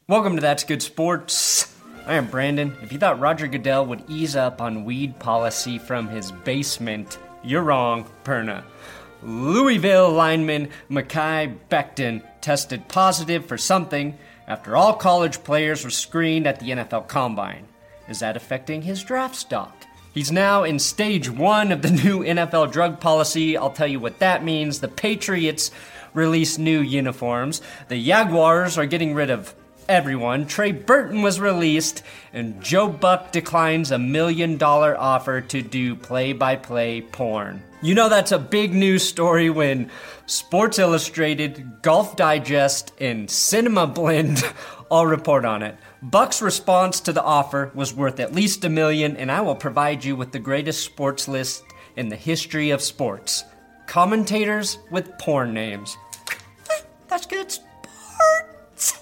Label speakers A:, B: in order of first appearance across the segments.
A: Welcome to That's Good Sports. I am Brandon. If you thought Roger Goodell would ease up on weed policy from his basement, you're wrong, Perna. Louisville lineman Mekhi Becton tested positive for something after all college players were screened at the NFL Combine. Is that affecting his draft stock? He's now in stage 1 of the new NFL drug policy. I'll tell you what that means. The Patriots released new uniforms. The Jaguars are getting rid of everyone. Trey Burton was released, and Joe Buck declines $1 million offer to do play-by-play porn. You know that's a big news story when Sports Illustrated, Golf Digest, and Cinema Blend all report on it. Buck's response to the offer was worth at least $1 million, and I will provide you with the greatest sports list in the history of sports. Commentators with porn names. That's good sports.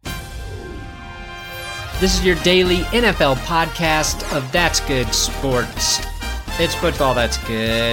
A: This is your daily NFL podcast of That's Good Sports. It's football that's good.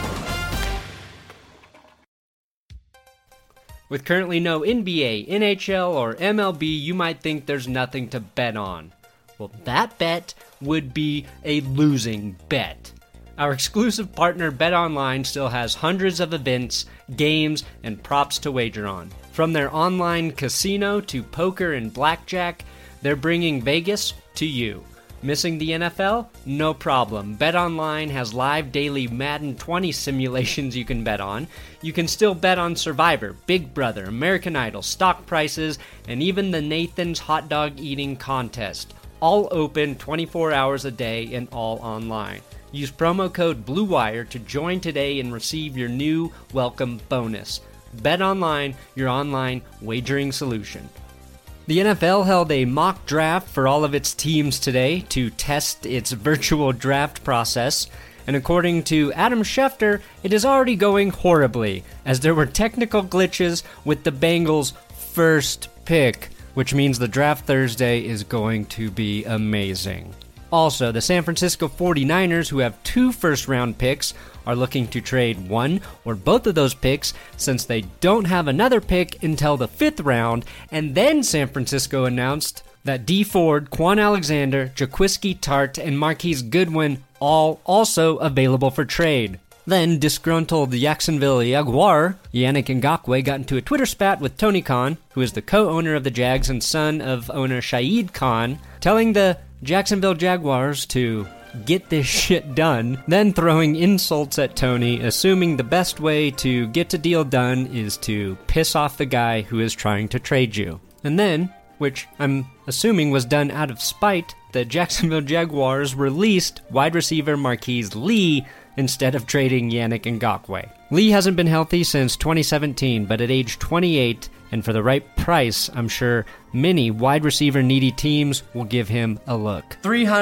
A: With currently no NBA, NHL, or MLB, you might think there's nothing to bet on. Well, that bet would be a losing bet. Our exclusive partner BetOnline still has hundreds of events, games, and props to wager on. From their online casino to poker and blackjack, they're bringing Vegas to you. Missing the NFL? No problem. BetOnline has live daily Madden 20 simulations you can bet on. You can still bet on Survivor, Big Brother, American Idol, stock prices, and even the Nathan's Hot Dog Eating Contest. All open 24 hours a day and all online. Use promo code BLUEWIRE to join today and receive your new welcome bonus. BetOnline, your online wagering solution. The NFL held a mock draft for all of its teams today to test its virtual draft process, and according to Adam Schefter, it is already going horribly, as there were technical glitches with the Bengals' first pick, which means the draft Thursday is going to be amazing. Also, the San Francisco 49ers, who have 2 first-round picks, are looking to trade one or both of those picks since they don't have another pick until the 5th round, and then San Francisco announced that Dee Ford, Quan Alexander, Jaquiski Tart, and Marquise Goodwin all also available for trade. Then, disgruntled Jacksonville Jaguar, Yannick Ngakoue, got into a Twitter spat with Tony Khan, who is the co-owner of the Jags and son of owner Shahid Khan, telling the Jacksonville Jaguars to get this shit done, then throwing insults at Tony, assuming the best way to get a deal done is to piss off the guy who is trying to trade you. And then, which I'm assuming was done out of spite, the Jacksonville Jaguars released wide receiver Marquise Lee instead of trading Yannick Ngakoue. Lee hasn't been healthy since 2017, but at age 28, and for the right price, I'm sure many wide receiver needy teams will give him a look.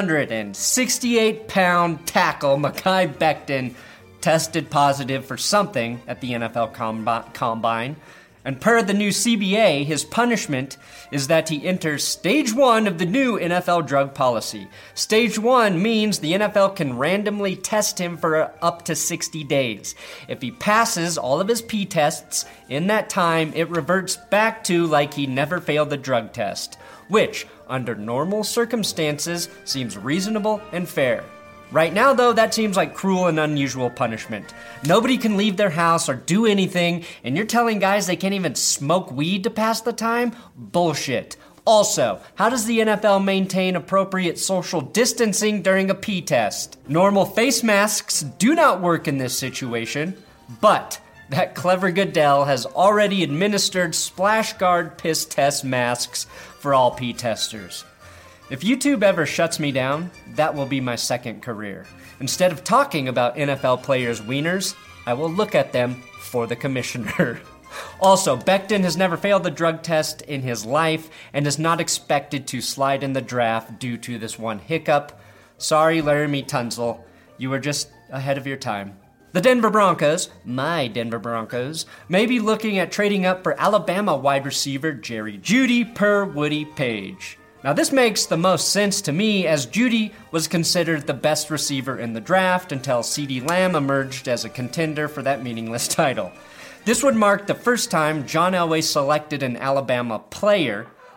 A: 368-pound tackle Mekhi Becton tested positive for something at the NFL Combine. And per the new CBA, his punishment is that he enters Stage 1 of the new NFL drug policy. Stage 1 means the NFL can randomly test him for up to 60 days. If he passes all of his P-tests in that time, it reverts back to like he never failed the drug test, which, under normal circumstances, seems reasonable and fair. Right now, though, that seems like cruel and unusual punishment. Nobody can leave their house or do anything, and you're telling guys they can't even smoke weed to pass the time? Bullshit. Also, how does the NFL maintain appropriate social distancing during a pee test? Normal face masks do not work in this situation, but that clever Goodell has already administered splash guard piss test masks for all pee testers. If YouTube ever shuts me down, that will be my second career. Instead of talking about NFL players' wieners, I will look at them for the commissioner. Also, Becton has never failed the drug test in his life and is not expected to slide in the draft due to this one hiccup. Sorry, Laramie Tunsil, you were just ahead of your time. The Denver Broncos, my Denver Broncos, may be looking at trading up for Alabama wide receiver Jerry Jeudy per Woody Page. Now this makes the most sense to me, as Jeudy was considered the best receiver in the draft until CeeDee Lamb emerged as a contender for that meaningless title. This would mark the first time John Elway selected an Alabama player.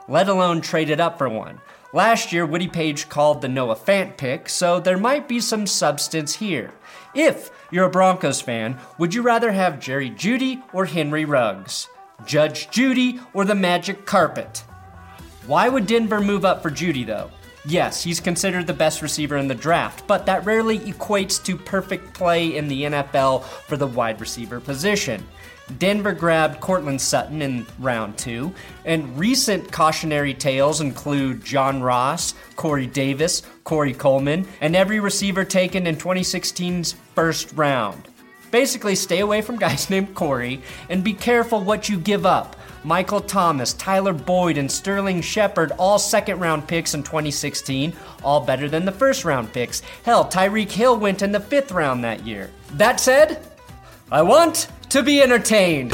A: let alone traded up for one. Last year, Woody Page called the Noah Fant pick, so there might be some substance here. If you're a Broncos fan, would you rather have Jerry Jeudy or Henry Ruggs? Judge Jeudy or the Magic Carpet? Why would Denver move up for Jeudy, though? Yes, he's considered the best receiver in the draft, but that rarely equates to perfect play in the NFL for the wide receiver position. Denver grabbed Courtland Sutton in round 2, and recent cautionary tales include John Ross, Corey Davis, Corey Coleman, and every receiver taken in 2016's first round. Basically, stay away from guys named Corey, and be careful what you give up. Michael Thomas, Tyler Boyd, and Sterling Shepard, all second-round picks in 2016, all better than the first-round picks. Hell, Tyreek Hill went in the 5th round that year. That said, I want to be entertained.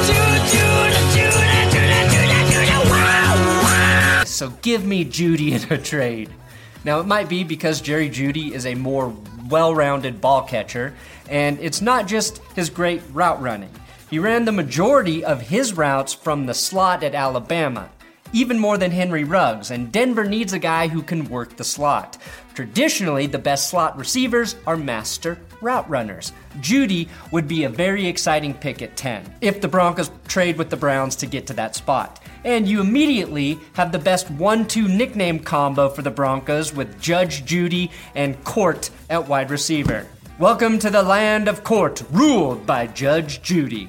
A: So give me Jeudy in a trade. Now, it might be because Jerry Jeudy is a more well-rounded ball catcher, and it's not just his great route running. He ran the majority of his routes from the slot at Alabama, even more than Henry Ruggs, and Denver needs a guy who can work the slot. Traditionally, the best slot receivers are master route runners. Jeudy would be a very exciting pick at 10, if the Broncos trade with the Browns to get to that spot. And you immediately have the best 1-2 nickname combo for the Broncos with Judge Jeudy and Court at wide receiver. Welcome to the land of Court, ruled by Judge Jeudy.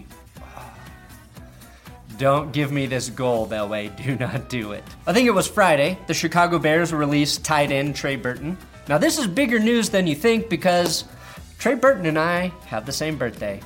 A: Don't give me this goal, Elway. Do not do it. I think it was Friday, the Chicago Bears released tight end Trey Burton. Now, this is bigger news than you think because Trey Burton and I have the same birthday.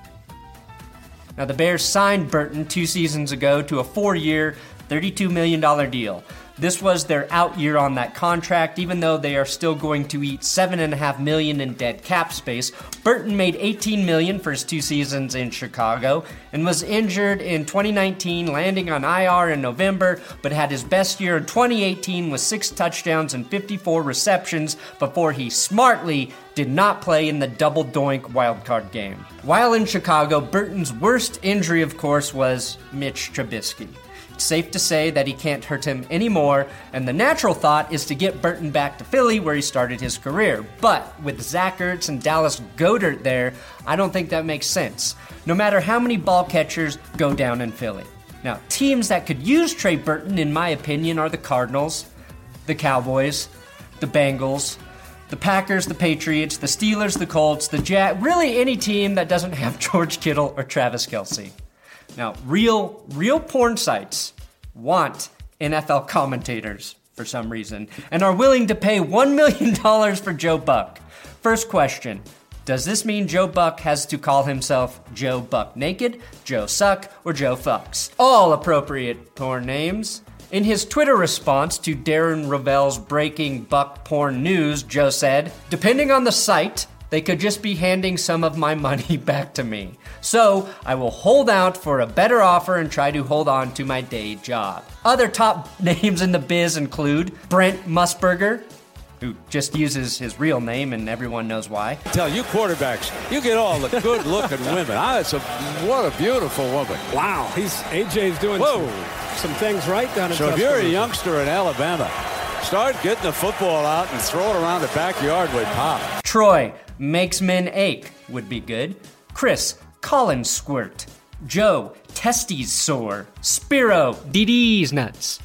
A: Now, the Bears signed Burton 2 seasons ago to a 4-year, $32 million deal. This was their out year on that contract, even though they are still going to eat $7.5 million in dead cap space. Burton made $18 million for his 2 seasons in Chicago and was injured in 2019, landing on IR in November, but had his best year in 2018 with 6 touchdowns and 54 receptions before he smartly did not play in the double doink wildcard game. While in Chicago, Burton's worst injury, of course, was Mitch Trubisky. Safe to say that he can't hurt him anymore, and the natural thought is to get Burton back to Philly where he started his career. But with Zach Ertz and Dallas Goedert there, I don't think that makes sense, no matter how many ball catchers go down in Philly. Now, teams that could use Trey Burton, in my opinion, are the Cardinals, the Cowboys, the Bengals, the Packers, the Patriots, the Steelers, the Colts, the Jets, really any team that doesn't have George Kittle or Travis Kelce. Now, real porn sites want NFL commentators for some reason and are willing to pay $1 million for Joe Buck. First question, does this mean Joe Buck has to call himself Joe Buck Naked, Joe Suck, or Joe Fucks? All appropriate porn names. In his Twitter response to Darren Rovell's breaking Buck porn news, Joe said, "Depending on the site, they could just be handing some of my money back to me. So I will hold out for a better offer and try to hold on to my day job." Other top names in the biz include Brent Musburger, who just uses his real name and everyone knows why.
B: I tell you quarterbacks, you get all the good-looking women. What a beautiful woman.
C: Wow, AJ's doing some things right down in
B: So if you're a youngster in Alabama, start getting the football out and throw it around the backyard with Pop.
A: Troy, makes men ache, would be good. Chris, Colin squirt. Joe, testes sore. Spiro, DD's nuts.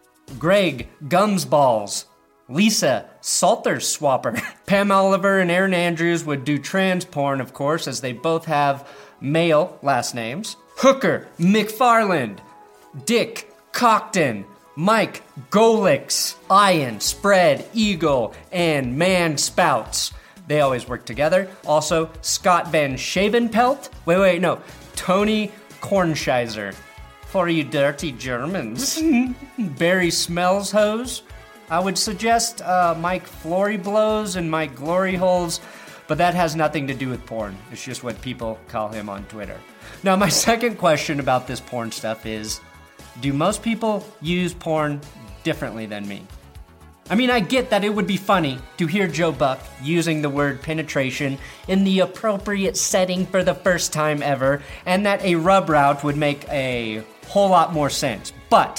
A: Greg, gums balls. Lisa, Salter swapper. Pam Oliver and Aaron Andrews would do trans porn, of course, as they both have male last names. Hooker, McFarland. Dick, Cockton. Mike, Golix. Ian, Spread, Eagle, and Man Spouts. They always work together. Also, Scott Van Shavenpelt. Tony Kornscheiser. For you dirty Germans. Barry Smells Hose. I would suggest Mike Flory Blows and Mike Glory Holes, but that has nothing to do with porn. It's just what people call him on Twitter. Now, my second question about this porn stuff is, do most people use porn differently than me? I mean, I get that it would be funny to hear Joe Buck using the word penetration in the appropriate setting for the first time ever, and that a rub route would make a whole lot more sense. But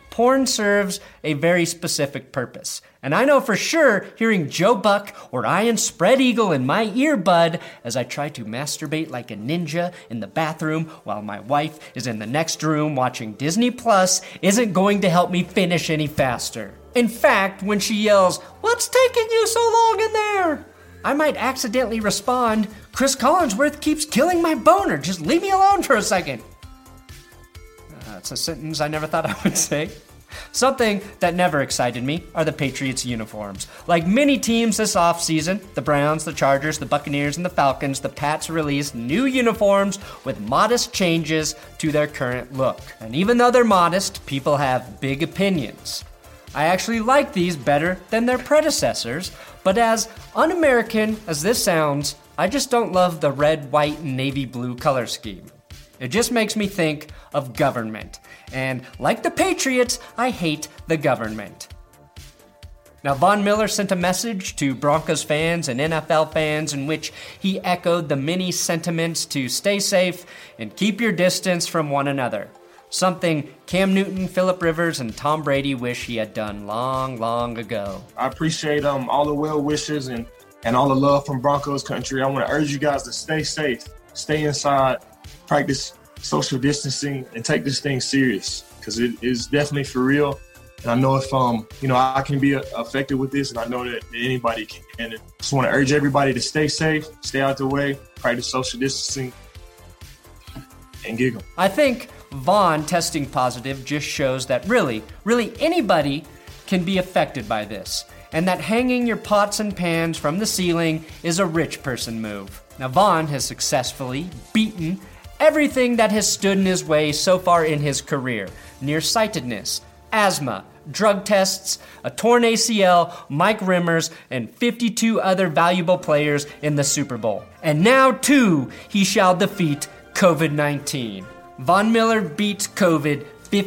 A: porn serves a very specific purpose. And I know for sure hearing Joe Buck or Ian Spread Eagle in my earbud as I try to masturbate like a ninja in the bathroom while my wife is in the next room watching Disney Plus isn't going to help me finish any faster. In fact, when she yells, "What's taking you so long in there?" I might accidentally respond, "Chris Collinsworth keeps killing my boner. Just leave me alone for a second." That's a sentence I never thought I would say. Something that never excited me are the Patriots uniforms. Like many teams this offseason, the Browns, the Chargers, the Buccaneers, and the Falcons, the Pats released new uniforms with modest changes to their current look. And even though they're modest, people have big opinions. I actually like these better than their predecessors, but as un-American as this sounds, I just don't love the red, white, and navy blue color scheme. It just makes me think of government. And like the Patriots, I hate the government. Now, Von Miller sent a message to Broncos fans and NFL fans in which he echoed the many sentiments to stay safe and keep your distance from one another. Something Cam Newton, Phillip Rivers, and Tom Brady wish he had done long, long ago.
D: I appreciate all the well wishes and all the love from Broncos country. I want to urge you guys to stay safe, stay inside, practice social distancing, and take this thing serious because it is definitely for real. And I know if I can be affected with this, and I know that anybody can. And I just want to urge everybody to stay safe, stay out the way, practice social distancing, and giggle.
A: I think Vaughn testing positive just shows that really anybody can be affected by this, and that hanging your pots and pans from the ceiling is a rich person move. Now, Vaughn has successfully beaten everything that has stood in his way so far in his career: nearsightedness, asthma, drug tests, a torn ACL, Mike Rimmers, and 52 other valuable players in the Super Bowl. And now, too, he shall defeat COVID-19. Von Miller beats COVID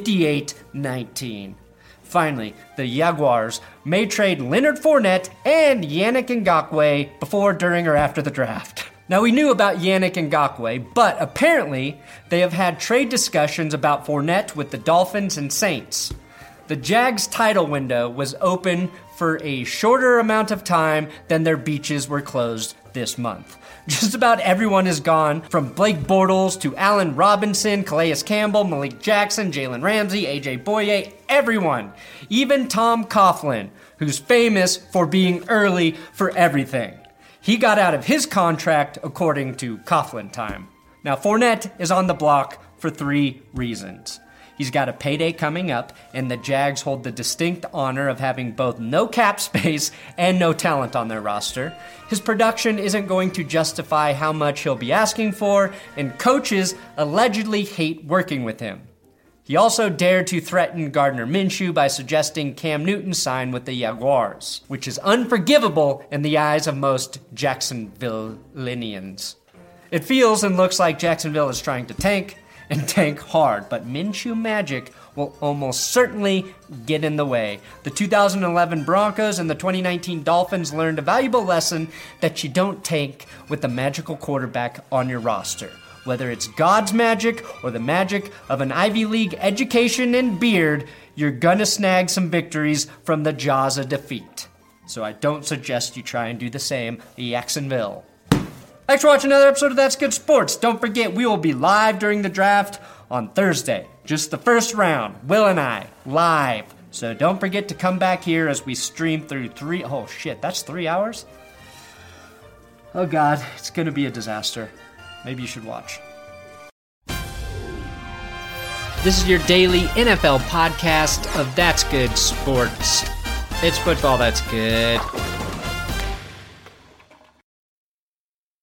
A: 58-19. Finally, the Jaguars may trade Leonard Fournette and Yannick Ngakoue before, during, or after the draft. Now, we knew about Yannick Ngakoue, but apparently they have had trade discussions about Fournette with the Dolphins and Saints. The Jags' title window was open for a shorter amount of time than their beaches were closed this month. Just about everyone is gone, from Blake Bortles to Allen Robinson, Calais Campbell, Malik Jackson, Jalen Ramsey, AJ Boye, everyone. Even Tom Coughlin, who's famous for being early for everything. He got out of his contract according to Coughlin time. Now, Fournette is on the block for 3 reasons. He's got a payday coming up, and the Jags hold the distinct honor of having both no cap space and no talent on their roster. His production isn't going to justify how much he'll be asking for, and coaches allegedly hate working with him. He also dared to threaten Gardner Minshew by suggesting Cam Newton sign with the Jaguars, which is unforgivable in the eyes of most Jacksonville-linians. It feels and looks like Jacksonville is trying to tank, and tank hard, but Minshew magic will almost certainly get in the way. The 2011 Broncos and the 2019 Dolphins learned a valuable lesson that you don't tank with the magical quarterback on your roster. Whether it's God's magic or the magic of an Ivy League education and beard, you're gonna snag some victories from the jaws of defeat. So I don't suggest you try and do the same, Jacksonville. Thanks for watching another episode of That's Good Sports. Don't forget, we will be live during the draft on Thursday. Just the first round, Will and I, live. So don't forget to come back here as we stream through 3... Oh shit, that's 3 hours? Oh god, it's gonna be a disaster. Maybe you should watch. This is your daily NFL podcast of That's Good Sports. It's football that's good.